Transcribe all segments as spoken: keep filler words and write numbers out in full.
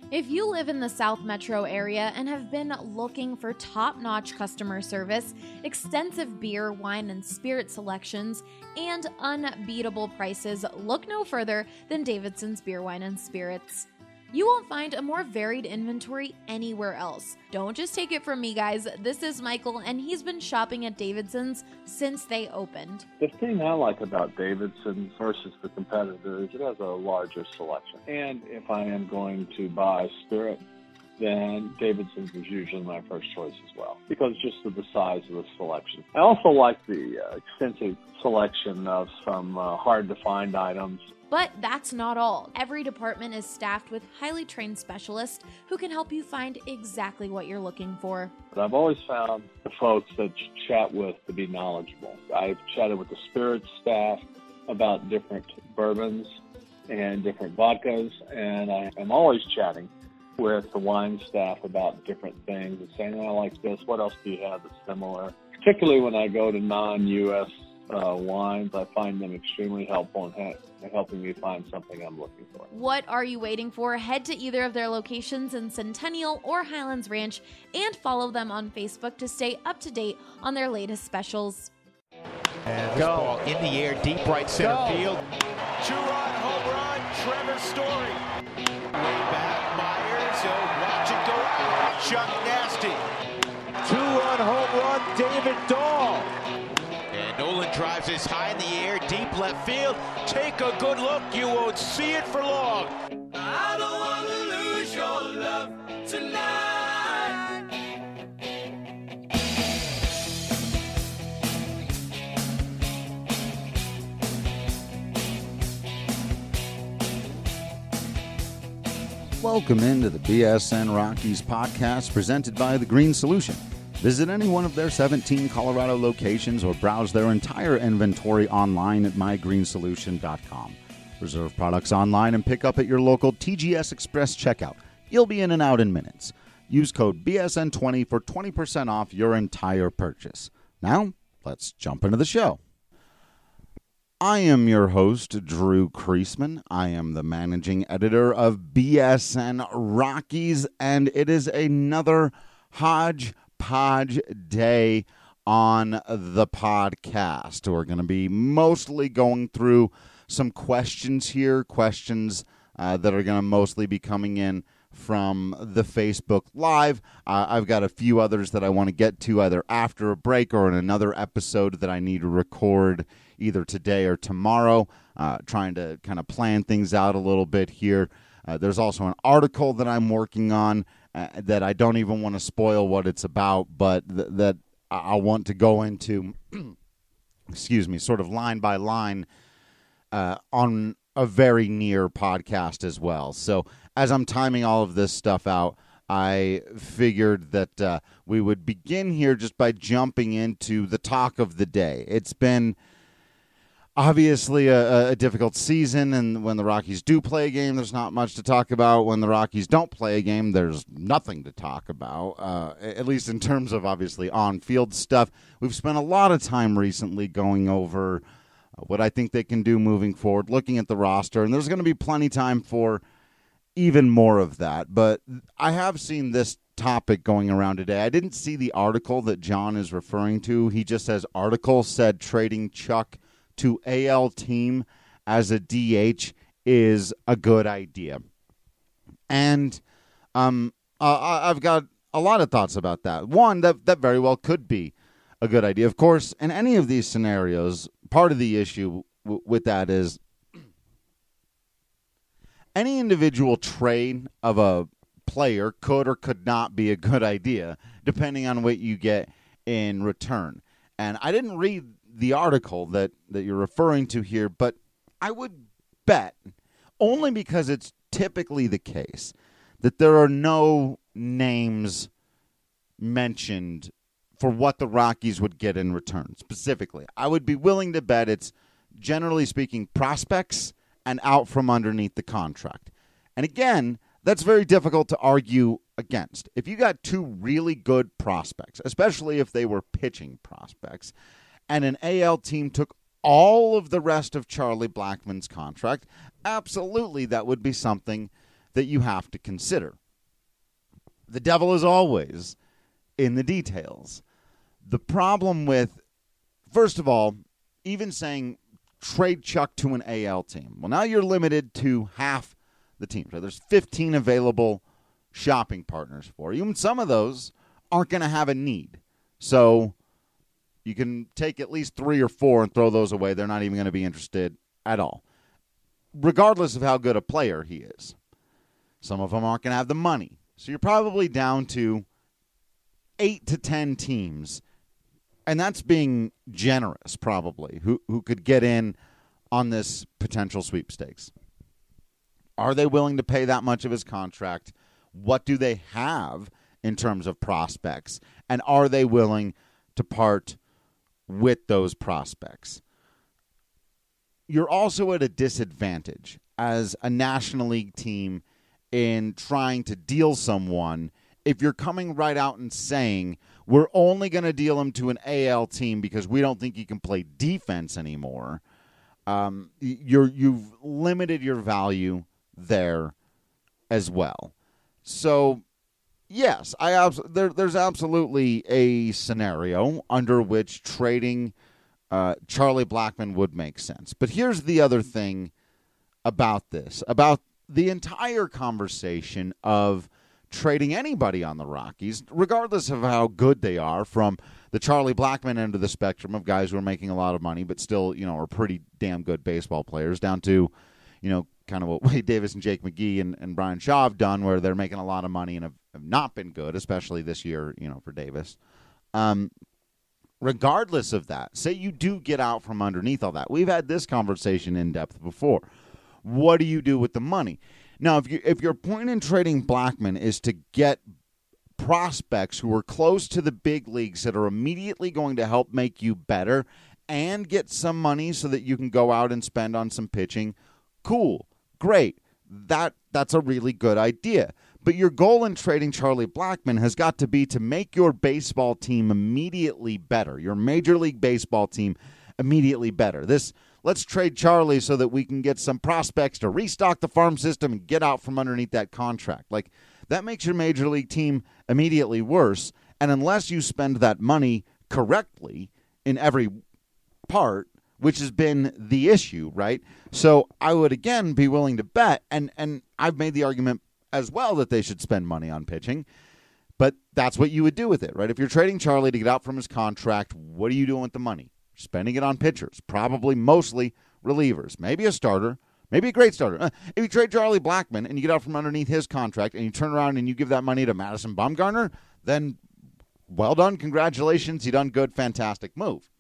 If you live in the South Metro area and have been looking for top-notch customer service, extensive beer, wine, and spirit selections, and unbeatable prices, look no further than Davidson's Beer, Wine, and Spirits. You won't find a more varied inventory anywhere else. Don't just take it from me, guys. This is Michael, and he's been shopping at Davidson's since they opened. The thing I like about Davidson's versus the competitor is it has a larger selection. And if I am going to buy spirit, then Davidson's is usually my first choice as well, because just of the size of the selection. I also like the uh, extensive selection of some uh, hard-to-find items. But that's not all. Every department is staffed with highly trained specialists who can help you find exactly what you're looking for. But I've always found the folks that you chat with to be knowledgeable. I've chatted with the spirits staff about different bourbons and different vodkas, and I am always chatting with the wine staff about different things and saying, oh, I like this, what else do you have that's similar? Particularly when I go to non-U S uh, wines, I find them extremely helpful in ha- helping me find something I'm looking for. What are you waiting for? Head to either of their locations in Centennial or Highlands Ranch and follow them on Facebook to stay up to date on their latest specials. And this ball in the air, deep right center Go. field. Two-run home run, Trevor Story. Way back, Myers, he'll watch it go out. Chuck Nasty. Two-run home run, David Dahl. And Nolan drives this high in the air, deep left field. Take a good look, you won't see it for long. I don't want to lose your love tonight. Welcome into the B S N Rockies podcast presented by The Green Solution. Visit any one of their seventeen Colorado locations or browse their entire inventory online at my green solution dot com. Reserve products online and pick up at your local T G S Express checkout. You'll be in and out in minutes. Use code B S N twenty for twenty percent off your entire purchase. Now, let's jump into the show. I am your host, Drew Kreisman. I am the managing editor of B S N Rockies, and it is another hodgepodge day on the podcast. We're going to be mostly going through some questions here, questions uh, that are going to mostly be coming in from the Facebook Live. Uh, I've got a few others that I want to get to either after a break or in another episode that I need to record either today or tomorrow, uh, trying to kind of plan things out a little bit here. Uh, there's also an article that I'm working on uh, that I don't even want to spoil what it's about, but th- that I want to go into, excuse me, sort of line by line uh, on a very near podcast as well. So as I'm timing all of this stuff out, I figured that uh, we would begin here just by jumping into the talk of the day. It's been obviously a, a difficult season, and when the Rockies do play a game, there's not much to talk about. When the Rockies don't play a game, there's nothing to talk about, uh, at least in terms of, obviously, on-field stuff. We've spent a lot of time recently going over what I think they can do moving forward, looking at the roster, and there's going to be plenty of time for even more of that. But I have seen this topic going around today. I didn't see the article that John is referring to. He just says, article said trading Chuck to A L team as a D H is a good idea. And um, uh, I've got a lot of thoughts about that. One, that, that very well could be a good idea. Of course, in any of these scenarios, part of the issue w- with that is any individual trade of a player could or could not be a good idea, depending on what you get in return. And I didn't read the article that, that you're referring to here, but I would bet, only because it's typically the case, that there are no names mentioned for what the Rockies would get in return, specifically. I would be willing to bet it's, generally speaking, prospects and out from underneath the contract. And again, that's very difficult to argue against. If you got two really good prospects, especially if they were pitching prospects, and an A L team took all of the rest of Charlie Blackmon's contract, absolutely that would be something that you have to consider. The devil is always in the details. The problem with, first of all, even saying trade Chuck to an A L team. Well, now you're limited to half the teams. Right? There's fifteen available shopping partners for you, and some of those aren't going to have a need. So you can take at least three or four and throw those away. They're not even going to be interested at all, regardless of how good a player he is. Some of them aren't going to have the money. So you're probably down to eight to ten teams, and that's being generous probably, who who could get in on this potential sweepstakes. Are they willing to pay that much of his contract? What do they have in terms of prospects? And are they willing to part with those prospects? You're also at a disadvantage as a National League team in trying to deal someone if you're coming right out and saying, we're only going to deal him to an A L team because we don't think he can play defense anymore. Um, you're, you've limited your value there as well. So, yes, I abs- there, there's absolutely a scenario under which trading uh, Charlie Blackmon would make sense. But here's the other thing about this, about the entire conversation of trading anybody on the Rockies, regardless of how good they are, from the Charlie Blackmon end of the spectrum of guys who are making a lot of money but still, you know, are pretty damn good baseball players, down to, you know, kind of what Wade Davis and Jake McGee and, and Brian Shaw have done, where they're making a lot of money and have, have not been good, especially this year, you know, for Davis. Um, regardless of that, say you do get out from underneath all that. We've had this conversation in depth before. What do you do with the money? Now, if you if your point in trading Blackmon is to get prospects who are close to the big leagues that are immediately going to help make you better and get some money so that you can go out and spend on some pitching, cool, great. That that's a really good idea. But your goal in trading Charlie Blackmon has got to be to make your baseball team immediately better, your Major League Baseball team immediately better. This let's trade Charlie so that we can get some prospects to restock the farm system and get out from underneath that contract. Like, that makes your Major League team immediately worse. And unless you spend that money correctly in every part, which has been the issue, right? So I would, again, be willing to bet, and, and I've made the argument as well that they should spend money on pitching, but that's what you would do with it, right? If you're trading Charlie to get out from his contract, what are you doing with the money? Spending it on pitchers, probably mostly relievers, maybe a starter, maybe a great starter. Uh, if you trade Charlie Blackmon and you get out from underneath his contract and you turn around and you give that money to Madison Bumgarner, then well done, congratulations, you done good, fantastic move.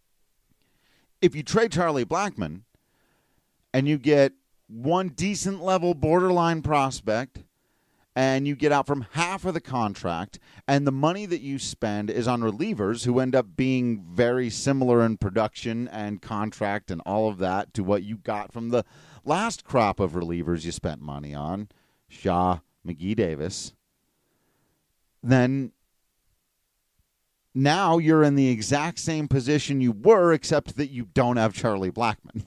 If you trade Charlie Blackmon and you get one decent level borderline prospect and you get out from half of the contract, and the money that you spend is on relievers who end up being very similar in production and contract and all of that to what you got from the last crop of relievers you spent money on, Shaw, McGee, Davis, then now you're in the exact same position you were, except that you don't have Charlie Blackmon.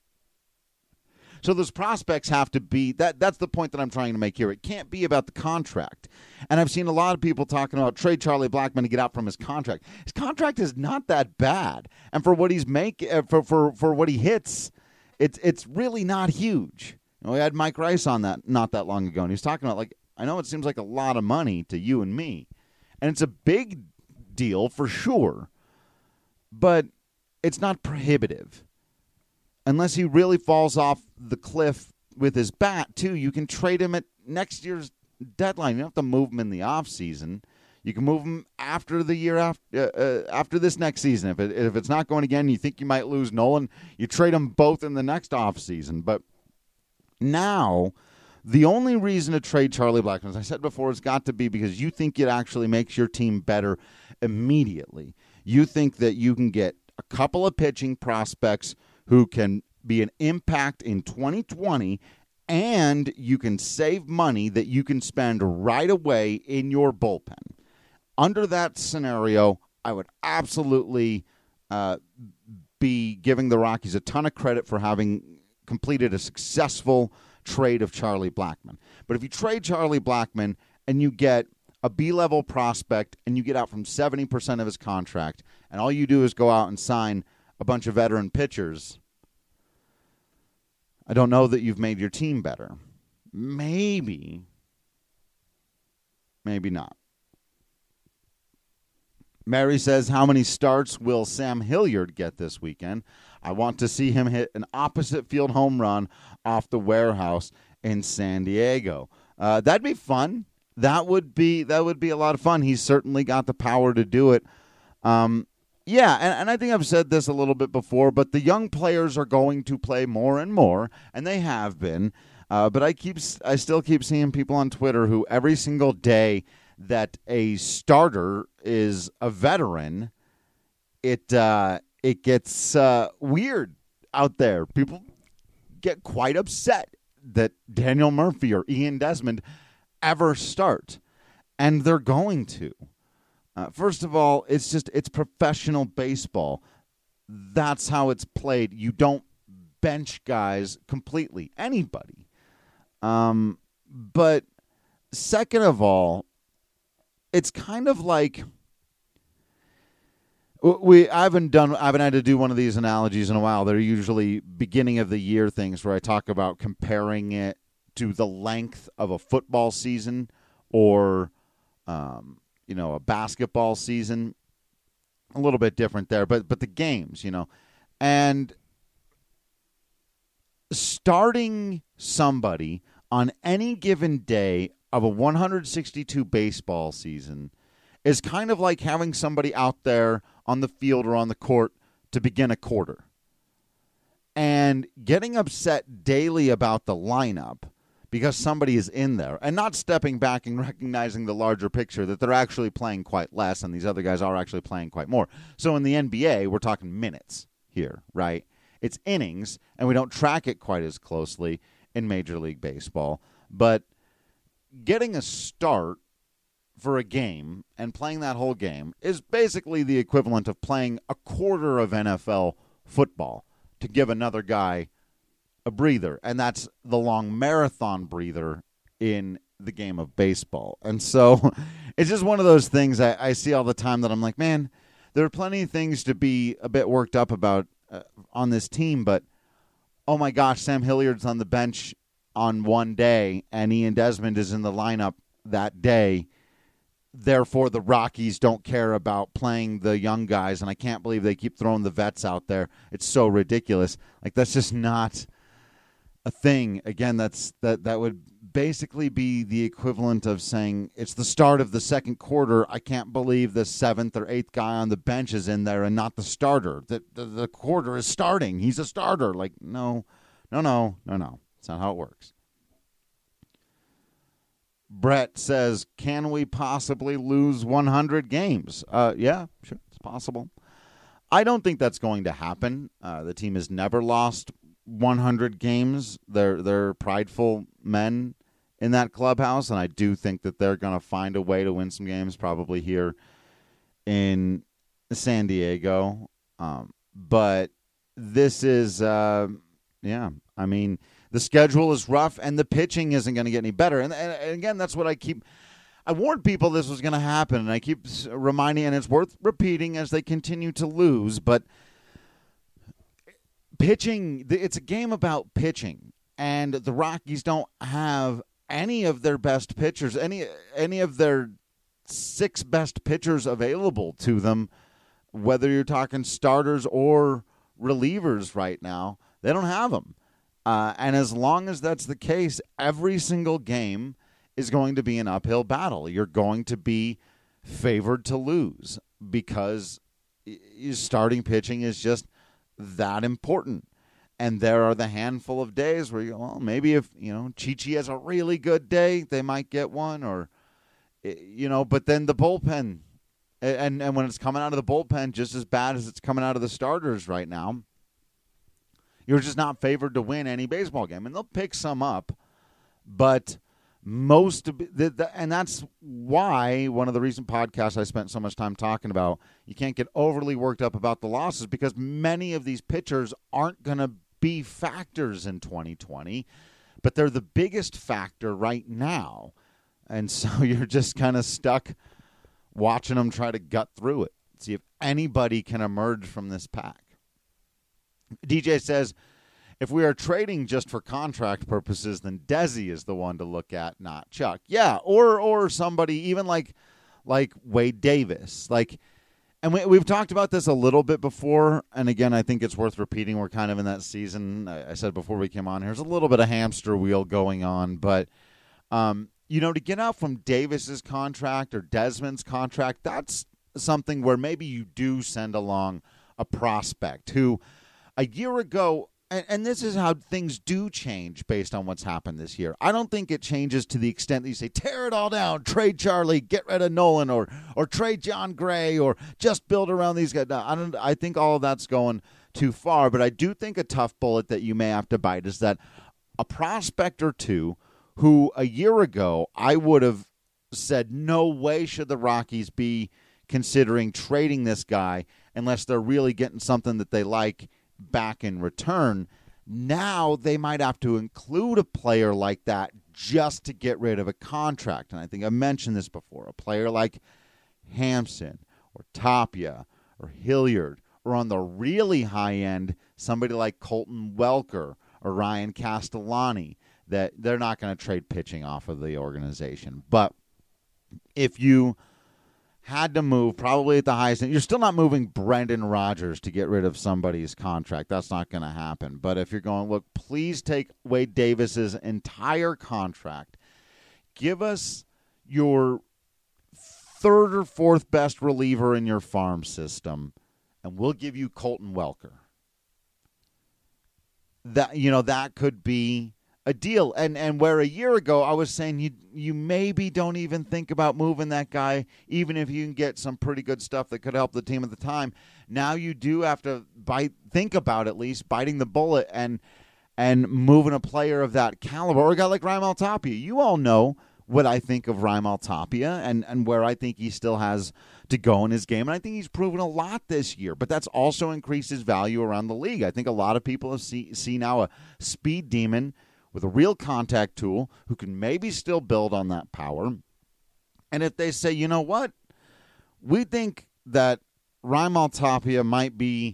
So those prospects have to be, that. that's the point that I'm trying to make here. It can't be about the contract. And I've seen a lot of people talking about trade Charlie Blackmon to get out from his contract. His contract is not that bad. And for what he's make, for, for, for what he hits, it's it's really not huge. You know, we had Mike Rice on that not that long ago, and he was talking about, like, I know it seems like a lot of money to you and me. And it's a big deal for sure. But it's not prohibitive. Unless he really falls off the cliff with his bat, too, you can trade him at next year's deadline. You don't have to move him in the offseason. You can move him after the year after uh, uh, after this next season. If it, if it's not going again, you think you might lose Nolan, you trade them both in the next offseason. But now, the only reason to trade Charlie Blackmon, as I said before, has got to be because you think it actually makes your team better immediately. You think that you can get a couple of pitching prospects who can be an impact in twenty twenty, and you can save money that you can spend right away in your bullpen. Under that scenario, I would absolutely uh, be giving the Rockies a ton of credit for having completed a successful trade of Charlie Blackmon. But if you trade Charlie Blackmon and you get a B-level prospect and you get out from seventy percent of his contract and all you do is go out and sign a bunch of veteran pitchers, I don't know that you've made your team better. Maybe. Maybe not. Mary says, how many starts will Sam Hilliard get this weekend? I want to see him hit an opposite field home run off the warehouse in San Diego. Uh, that'd be fun. That would be that would be a lot of fun. He's certainly got the power to do it. Um, yeah, and, and I think I've said this a little bit before, but the young players are going to play more and more, and they have been. Uh, but I keep I still keep seeing people on Twitter who every single day that a starter is a veteran, it uh, it gets uh, weird out there. People get quite upset that Daniel Murphy or Ian Desmond ever start, and they're going to. Uh, first of all, it's just it's professional baseball. That's how it's played. You don't bench guys completely, anybody. Um, but second of all, it's kind of like we. I haven't done. I haven't had to do one of these analogies in a while. They're usually beginning of the year things where I talk about comparing it to the length of a football season or, um, you know, a basketball season. A little bit different there, but but the games, you know, and starting somebody on any given day of a one hundred sixty-two baseball season is kind of like having somebody out there on the field or on the court to begin a quarter. And getting upset daily about the lineup because somebody is in there and not stepping back and recognizing the larger picture that they're actually playing quite less and these other guys are actually playing quite more. So in the N B A, we're talking minutes here, right? It's innings, and we don't track it quite as closely in Major League Baseball. But getting a start for a game and playing that whole game is basically the equivalent of playing a quarter of N F L football to give another guy a breather. And that's the long marathon breather in the game of baseball. And so it's just one of those things I, I see all the time that I'm like, man, there are plenty of things to be a bit worked up about uh, on this team, but oh my gosh, Sam Hilliard's on the bench on one day and Ian Desmond is in the lineup that day. Therefore, the Rockies don't care about playing the young guys, and I can't believe they keep throwing the vets out there. It's so ridiculous. Like, that's just not a thing. Again, that's that that would basically be the equivalent of saying it's the start of the second quarter. I can't believe the seventh or eighth guy on the bench is in there and not the starter. The, the, the quarter is starting. He's a starter. Like, no, no, no, no, no. That's not how it works. Brett says, can we possibly lose one hundred games? Uh, yeah, sure, it's possible. I don't think that's going to happen. Uh, the team has never lost one hundred games. They're, they're prideful men in that clubhouse, and I do think that they're going to find a way to win some games, probably here in San Diego. Um, but this is, uh, yeah, I mean, the schedule is rough, and the pitching isn't going to get any better. And, and, and again, that's what I keep – I warned people this was going to happen, and I keep reminding, and it's worth repeating as they continue to lose. But pitching – it's a game about pitching, and the Rockies don't have any of their best pitchers, any any of their six best pitchers available to them, whether you're talking starters or relievers right now. They don't have them. Uh, and as long as that's the case, every single game is going to be an uphill battle. You're going to be favored to lose because starting pitching is just that important. And there are the handful of days where you go, well, maybe if, you know, Chi-Chi has a really good day, they might get one, or, you know, but then the bullpen, and, and when it's coming out of the bullpen just as bad as it's coming out of the starters right now, you're just not favored to win any baseball game. And they'll pick some up, but most of the, the, and that's why one of the recent podcasts I spent so much time talking about, you can't get overly worked up about the losses because many of these pitchers aren't going to be factors in twenty twenty. but they're the biggest factor right now. And so you're just kind of stuck watching them try to gut through it, see if anybody can emerge from this pack. D J says, if we are trading just for contract purposes, then Desi is the one to look at, not Chuck. Yeah, or or somebody even like like Wade Davis. Like, and we, we've talked about this a little bit before, and again, I think it's worth repeating. We're kind of in that season. I, I said before we came on, here's a little bit of hamster wheel going on, but, um, you know, to get out from Davis's contract or Desmond's contract, that's something where maybe you do send along a prospect who a year ago, and, and this is how things do change based on what's happened this year. I don't think it changes to the extent that you say, tear it all down, trade Charlie, get rid of Nolan, or or trade John Gray, or just build around these guys. No, I don't. I think all of that's going too far, but I do think a tough bullet that you may have to bite is that a prospect or two who a year ago I would have said no way should the Rockies be considering trading this guy unless they're really getting something that they like back in return. Now they might have to include a player like that just to get rid of a contract. And I think I mentioned this before. A player like Hampson or Tapia or Hilliard, or on the really high end, somebody like Colton Welker or Ryan Castellani, that they're not going to trade pitching off of the organization. But if you had to move, probably at the highest end, you're still not moving Brendan Rodgers to get rid of somebody's contract. That's not going to happen. But if you're going, look, please take Wade Davis's entire contract. Give us your third or fourth best reliever in your farm system, and we'll give you Colton Welker. That, you know, that could be a deal. And and where a year ago I was saying you you maybe don't even think about moving that guy, even if you can get some pretty good stuff that could help the team at the time. Now you do have to bite, think about at least biting the bullet and and moving a player of that caliber, or a guy like Raimel Tapia. You all know what I think of Raimel Tapia and, and where I think he still has to go in his game. And I think he's proven a lot this year, but that's also increased his value around the league. I think a lot of people have see, see now a speed demon with a real contact tool who can maybe still build on that power. And if they say, you know what, we think that Raimel Tapia might be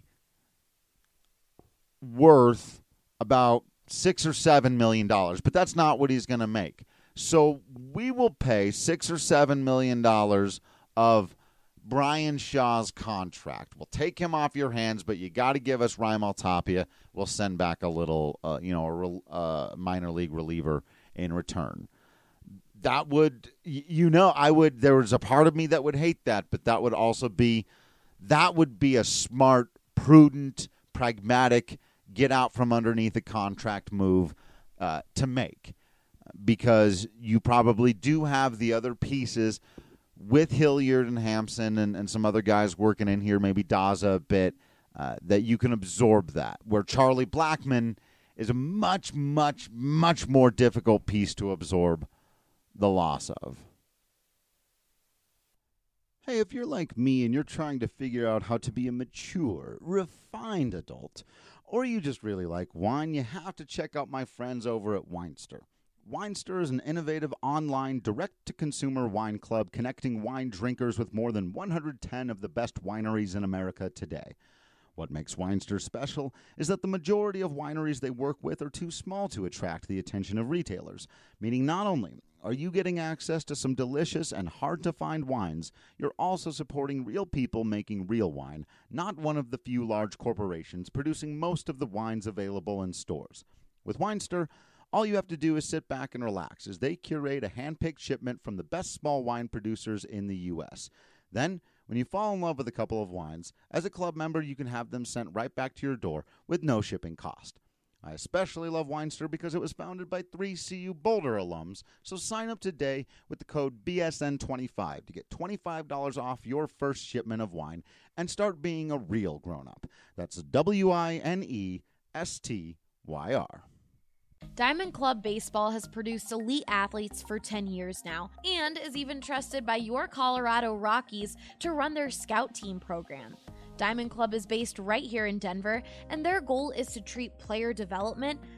worth about six or seven million dollars, but that's not what he's going to make. So we will pay six or seven million dollars of Brian Shaw's contract. We'll take him off your hands, but you got to give us Raimel Tapia. We'll send back a little, uh, you know, a uh, minor league reliever in return. That would, you know, I would. There was a part of me that would hate that, but that would also be, that would be a smart, prudent, pragmatic, get out from underneath a contract move uh, to make. Because you probably do have the other pieces with Hilliard and Hampson and, and some other guys working in here, maybe Daza a bit, uh, that you can absorb that. Where Charlie Blackmon is a much, much, much more difficult piece to absorb the loss of. Hey, if you're like me and you're trying to figure out how to be a mature, refined adult, or you just really like wine, you have to check out my friends over at Winester. Winester is an innovative online direct-to-consumer wine club connecting wine drinkers with more than one hundred ten of the best wineries in America today. What makes Winester special is that the majority of wineries they work with are too small to attract the attention of retailers, meaning not only are you getting access to some delicious and hard-to-find wines, you're also supporting real people making real wine, not one of the few large corporations producing most of the wines available in stores. With Winester, all you have to do is sit back and relax as they curate a hand-picked shipment from the best small wine producers in the U S. Then, when you fall in love with a couple of wines, as a club member, you can have them sent right back to your door with no shipping cost. I especially love Winester because it was founded by three C U Boulder alums, so sign up today with the code B S N twenty-five to get twenty-five dollars off your first shipment of wine and start being a real grown-up. That's W I N E S T Y R. Diamond Club Baseball has produced elite athletes for ten years now and is even trusted by your Colorado Rockies to run their scout team program. Diamond Club is based right here in Denver, and their goal is to treat player development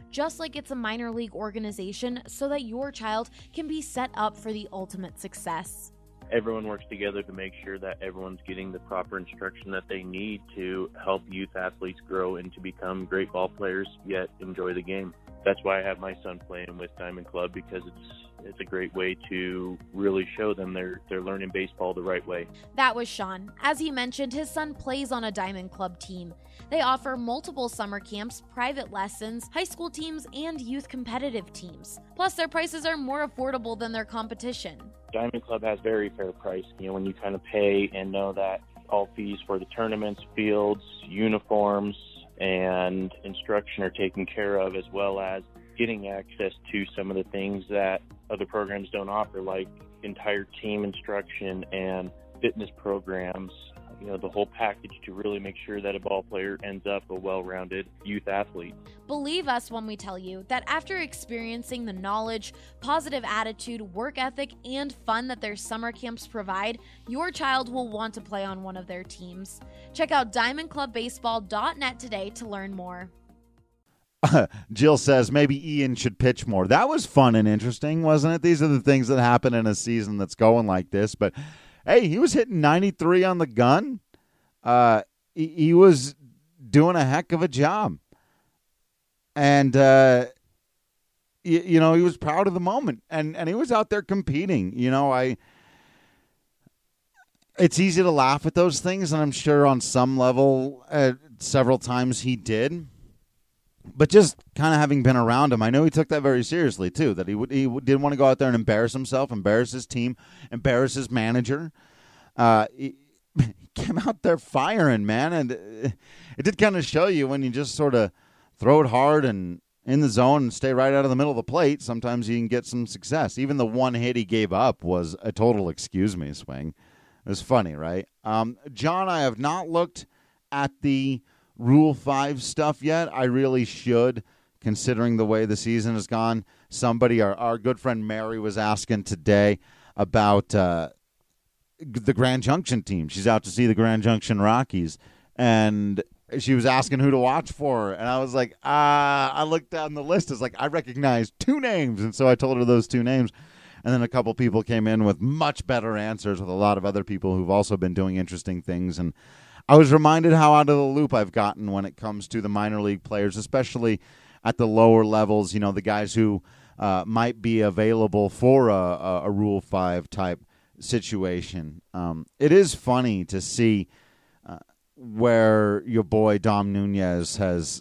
just like it's a minor league organization, so that your child can be set up for the ultimate success. Everyone works together to make sure that everyone's getting the proper instruction that they need to help youth athletes grow and to become great ball players, yet enjoy the game. That's why I have my son playing with Diamond Club, because it's it's a great way to really show them they're they're learning baseball the right way. That was Sean. As he mentioned, his son plays on a Diamond Club team. They offer multiple summer camps, private lessons, high school teams, and youth competitive teams. Plus, their prices are more affordable than their competition. Diamond Club has very fair price. You know, when you kind of pay and know that all fees for the tournaments, fields, uniforms, and instruction are taken care of, as well as getting access to some of the things that other programs don't offer, like entire team instruction and fitness programs, you know, the whole package to really make sure that a ball player ends up a well-rounded youth athlete. Believe us when we tell you that after experiencing the knowledge, positive attitude, work ethic, and fun that their summer camps provide, your child will want to play on one of their teams. Check out diamond club baseball dot net today to learn more. Jill says maybe Ian should pitch more. That was fun and interesting, wasn't it? These are the things that happen in a season that's going like this. But, hey, he was hitting ninety-three on the gun. Uh, he, he was doing a heck of a job. And, uh, you, you know, he was proud of the moment. And, and he was out there competing. You know, I... It's easy to laugh at those things, and I'm sure on some level uh, several times he did. But just kind of having been around him, I know he took that very seriously, too, that he would, he didn't want to go out there and embarrass himself, embarrass his team, embarrass his manager. Uh, he, he came out there firing, man, and it, it did kind of show you when you just sort of throw it hard and in the zone and stay right out of the middle of the plate, sometimes you can get some success. Even the one hit he gave up was a total excuse me swing. It was funny, right? Um, John, I have not looked at the Rule five stuff yet. I really should, considering the way the season has gone. Somebody, our, our good friend Mary, was asking today about uh, the Grand Junction team. She's out to see the Grand Junction Rockies, and she was asking who to watch for. And I was like, ah, I looked down the list. It's like, I recognize two names. And so I told her those two names. And then a couple people came in with much better answers, with a lot of other people who've also been doing interesting things. And I was reminded how out of the loop I've gotten when it comes to the minor league players, especially at the lower levels, you know, the guys who uh, might be available for a, a, a Rule five type situation. Um, it is funny to see uh, where your boy Dom Nunez has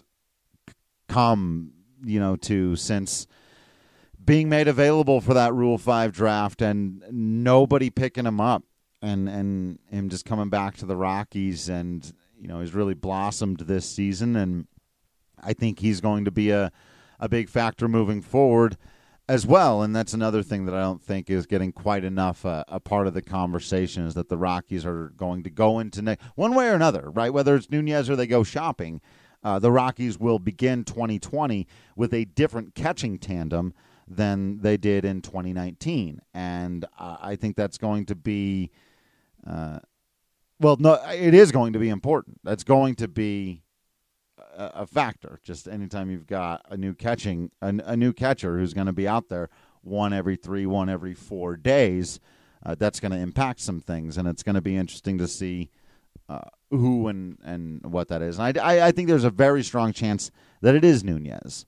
come, you know, to since being made available for that Rule five draft and nobody picking him up. And and him just coming back to the Rockies, and you know he's really blossomed this season, and I think he's going to be a, a big factor moving forward as well. And that's another thing that I don't think is getting quite enough uh, a part of the conversation, is that the Rockies are going to go into ne- one way or another, right? Whether it's Nunez or they go shopping, uh, the Rockies will begin twenty twenty with a different catching tandem than they did in twenty nineteen, and uh, I think that's going to be. Uh, well, no, it is going to be important. That's going to be a, a factor. Just anytime you've got a new catching, a, a new catcher who's going to be out there one every three, one every four days, uh, that's going to impact some things, and it's going to be interesting to see uh, who and, and what that is. And I, I, I think there's a very strong chance that it is Nunez.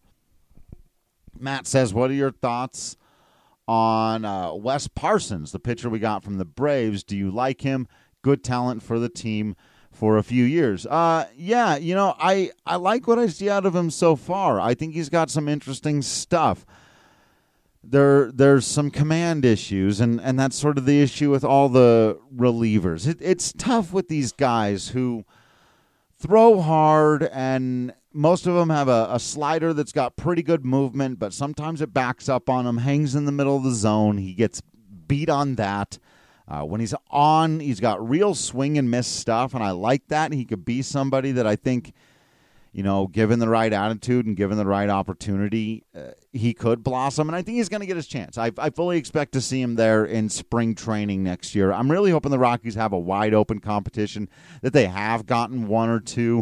Matt says, what are your thoughts on uh, Wes Parsons, the pitcher we got from the Braves? Do you like him? Good talent for the team for a few years. Uh, yeah, you know, I, I like what I see out of him so far. I think he's got some interesting stuff. There, There's some command issues, and, and that's sort of the issue with all the relievers. It, it's tough with these guys who throw hard, and most of them have a, a slider that's got pretty good movement, but sometimes it backs up on him, hangs in the middle of the zone. He gets beat on that. Uh, when he's on, he's got real swing and miss stuff, and I like that. He could be somebody that I think, you know, given the right attitude and given the right opportunity, uh, he could blossom, and I think he's going to get his chance. I, I fully expect to see him there in spring training next year. I'm really hoping the Rockies have a wide-open competition, that they have gotten one or two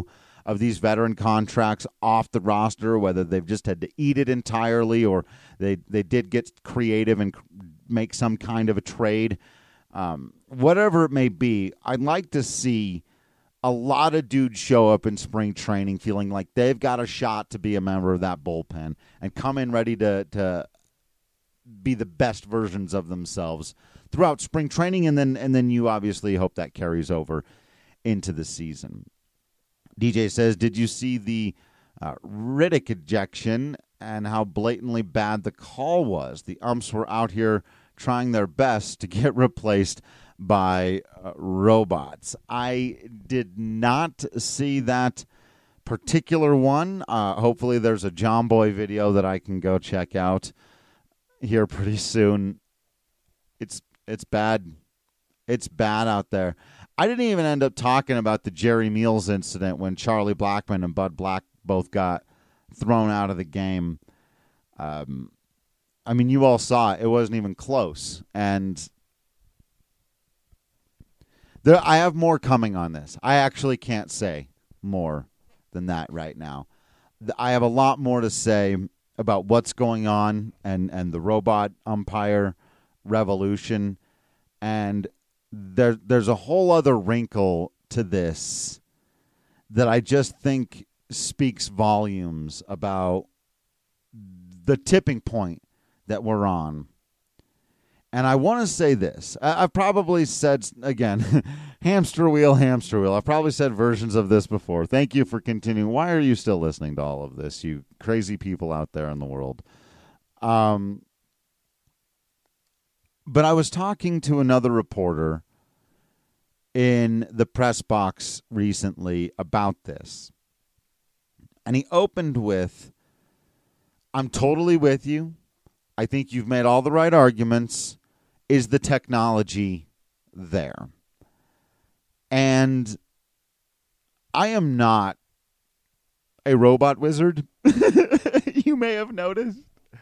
of these veteran contracts off the roster, whether they've just had to eat it entirely or they, they did get creative and make some kind of a trade. Um, whatever it may be, I'd like to see a lot of dudes show up in spring training feeling like they've got a shot to be a member of that bullpen and come in ready to, to be the best versions of themselves throughout spring training, and then and then you obviously hope that carries over into the season. D J says, did you see the uh, Riddick ejection and how blatantly bad the call was? The umps were out here trying their best to get replaced by uh, robots. I did not see that particular one. Uh, hopefully there's a John Boy video that I can go check out here pretty soon. It's it's bad. It's bad out there. I didn't even end up talking about the Jerry Meals incident when Charlie Blackmon and Bud Black both got thrown out of the game. Um, I mean, you all saw it. It wasn't even close. And there, I have more coming on this. I actually can't say more than that right now. I have a lot more to say about what's going on and, and the robot umpire revolution. And there, there's a whole other wrinkle to this that I just think speaks volumes about the tipping point that we're on. And I want to say this. I've probably said, again, hamster wheel, hamster wheel. I've probably said versions of this before. Thank you for continuing. Why are you still listening to all of this, you crazy people out there in the world? Um, but I was talking to another reporter in the press box recently about this. And he opened with, I'm totally with you. I think you've made all the right arguments. Is the technology there? And I am not a robot wizard. You may have noticed.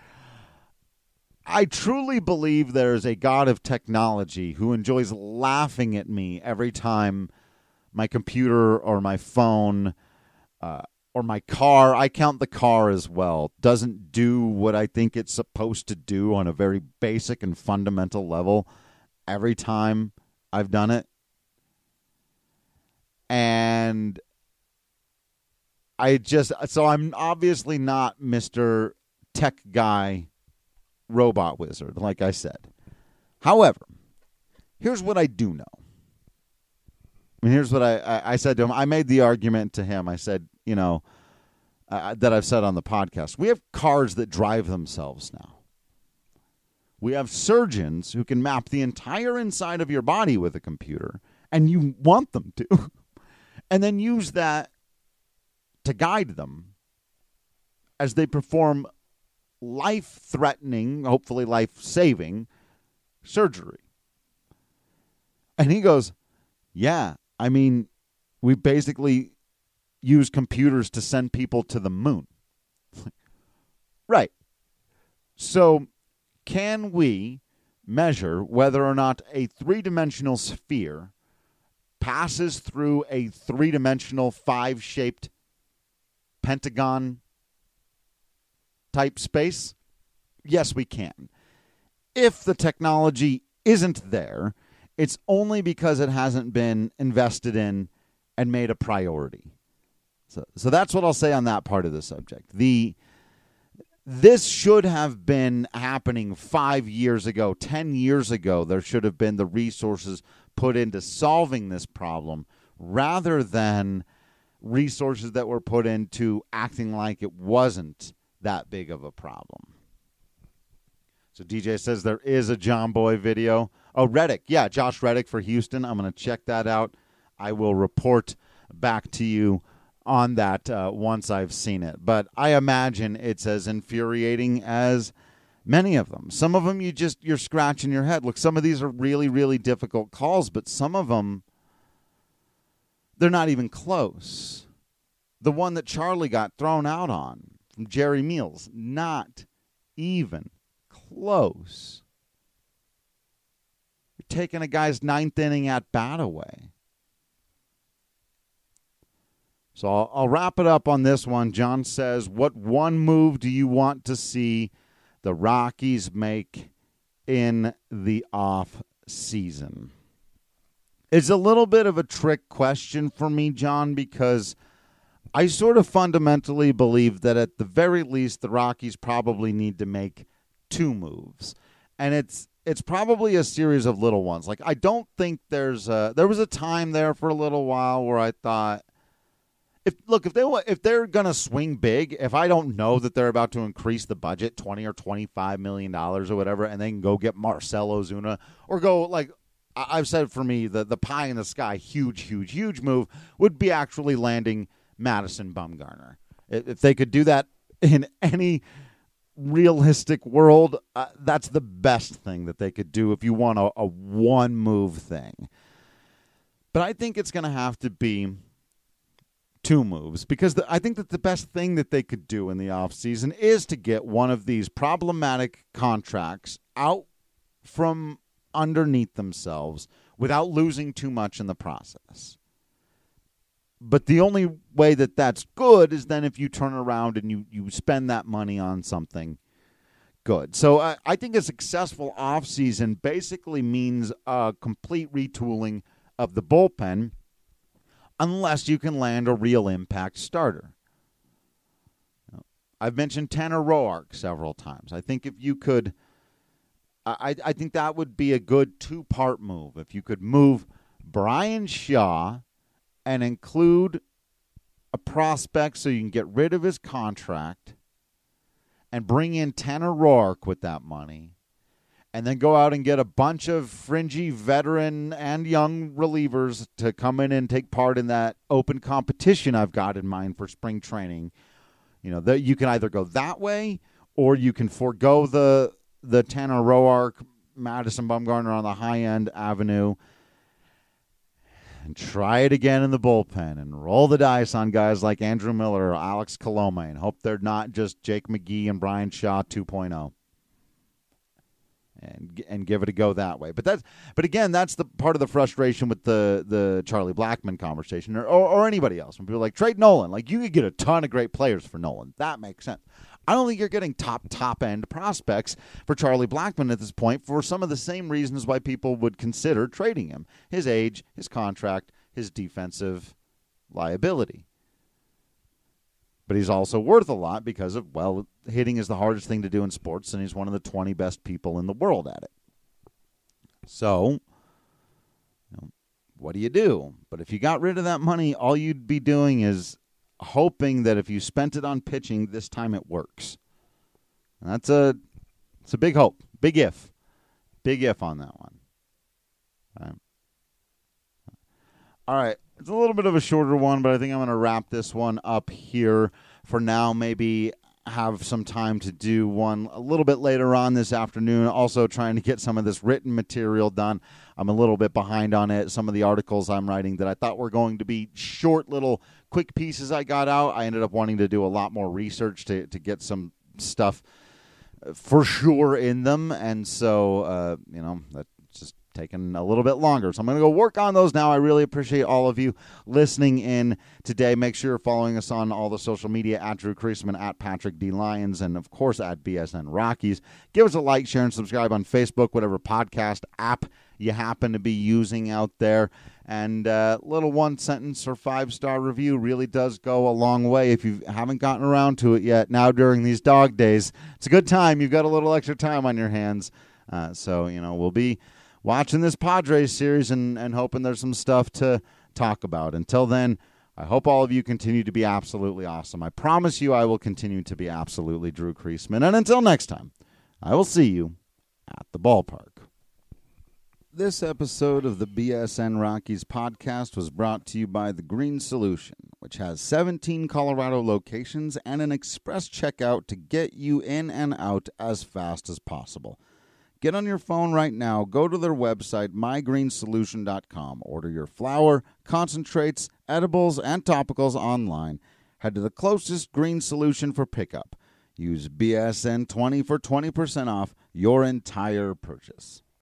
I truly believe there is a God of technology who enjoys laughing at me every time my computer or my phone uh, or my car, I count the car as well, doesn't do what I think it's supposed to do on a very basic and fundamental level every time I've done it. And I just, so I'm obviously not Mister Tech Guy Robot Wizard, like I said. However, here's what I do know. I mean, here's what I, I, I said to him. I made the argument to him. I said, you know, uh, that I've said on the podcast. We have cars that drive themselves now. We have surgeons who can map the entire inside of your body with a computer, and you want them to, and then use that to guide them as they perform life-threatening, hopefully life-saving surgery. And he goes, yeah, I mean, we basically use computers to send people to the moon. Right. So can we measure whether or not a three-dimensional sphere passes through a three-dimensional five-shaped pentagon type space? Yes, we can. If the technology isn't there, it's only because it hasn't been invested in and made a priority. So, so that's what I'll say on that part of the subject. The This should have been happening five years ago, ten years ago. There should have been the resources put into solving this problem rather than resources that were put into acting like it wasn't that big of a problem. So D J says there is a John Boy video. Oh, Reddick. Yeah, Josh Reddick for Houston. I'm going to check that out. I will report back to you on that uh, once I've seen it. But I imagine it's as infuriating as many of them. Some of them you just, you're scratching your head. Look, some of these are really, really difficult calls, but some of them, they're not even close. The one that Charlie got thrown out on from Jerry Meals, not even close. You're taking a guy's ninth inning at bat away. So I'll, I'll wrap it up on this one. John says, what one move do you want to see the Rockies make in the off season? It's a little bit of a trick question for me, John, because I sort of fundamentally believe that at the very least the Rockies probably need to make two moves. And it's it's probably a series of little ones. Like, I don't think there's a, there was a time there for a little while where I thought, if look, if they if they're going to swing big, if I don't know that they're about to increase the budget twenty or twenty-five million dollars or whatever, and they can go get Marcell Ozuna or go, like, I've said for me, the, the pie in the sky, huge, huge, huge move would be actually landing Madison Bumgarner. If they could do that in any realistic world, uh, that's the best thing that they could do if you want a, a one-move thing. But I think it's going to have to be two moves, because the, I think that the best thing that they could do in the offseason is to get one of these problematic contracts out from underneath themselves without losing too much in the process. But the only way that that's good is then if you turn around and you, you spend that money on something good. So I, I think a successful offseason basically means a complete retooling of the bullpen, unless you can land a real impact starter. I've mentioned Tanner Roark several times. I think if you could, I, I think that would be a good two-part move. If you could move Brian Shaw and include a prospect so you can get rid of his contract and bring in Tanner Roark with that money, and then go out and get a bunch of fringy veteran and young relievers to come in and take part in that open competition I've got in mind for spring training. You know, that you can either go that way, or you can forego the the Tanner Roark, Madison Bumgarner on the high-end avenue, and try it again in the bullpen and roll the dice on guys like Andrew Miller or Alex Colomé and hope they're not just Jake McGee and Brian Shaw two point oh. And and give it a go that way. But that's but again, that's the part of the frustration with the the Charlie Blackmon conversation, or, or or anybody else. When people are like, trade Nolan, like, you could get a ton of great players for Nolan. That makes sense. I don't think you're getting top top end prospects for Charlie Blackmon at this point for some of the same reasons why people would consider trading him: his age, his contract, his defensive liability. But he's also worth a lot because of, well, hitting is the hardest thing to do in sports, and he's one of the twenty best people in the world at it. So, you know, what do you do? But if you got rid of that money, all you'd be doing is hoping that if you spent it on pitching, this time it works. And that's a, it's a big hope, big if, big if on that one. All right. All right. It's a little bit of a shorter one, but I think I'm going to wrap this one up here for now. Maybe have some time to do one a little bit later on this afternoon. Also trying to get some of this written material done. I'm a little bit behind on it. Some of the articles I'm writing that I thought were going to be short little quick pieces I got out, I ended up wanting to do a lot more research to, to get some stuff for sure in them. And so, uh, you know, that just taking a little bit longer. So I'm going to go work on those now. I really appreciate all of you listening in today. Make sure you're following us on all the social media, at Drew Creasman, at Patrick D. Lyons, and of course at B S N Rockies. Give us a like, share, and subscribe on Facebook, whatever podcast app you happen to be using out there. And uh, little one sentence or five star review really does go a long way. If you haven't gotten around to it yet, now during these dog days, it's a good time. You've got a little extra time on your hands. Uh, so, you know, we'll be watching this Padres series and, and hoping there's some stuff to talk about. Until then, I hope all of you continue to be absolutely awesome. I promise you I will continue to be absolutely Drew Creasman. And until next time, I will see you at the ballpark. This episode of the B S N Rockies podcast was brought to you by The Green Solution, which has seventeen Colorado locations and an express checkout to get you in and out as fast as possible. Get on your phone right now, go to their website, my green solution dot com. Order your flour, concentrates, edibles, and topicals online. Head to the closest Green Solution for pickup. Use B S N twenty for twenty percent off your entire purchase.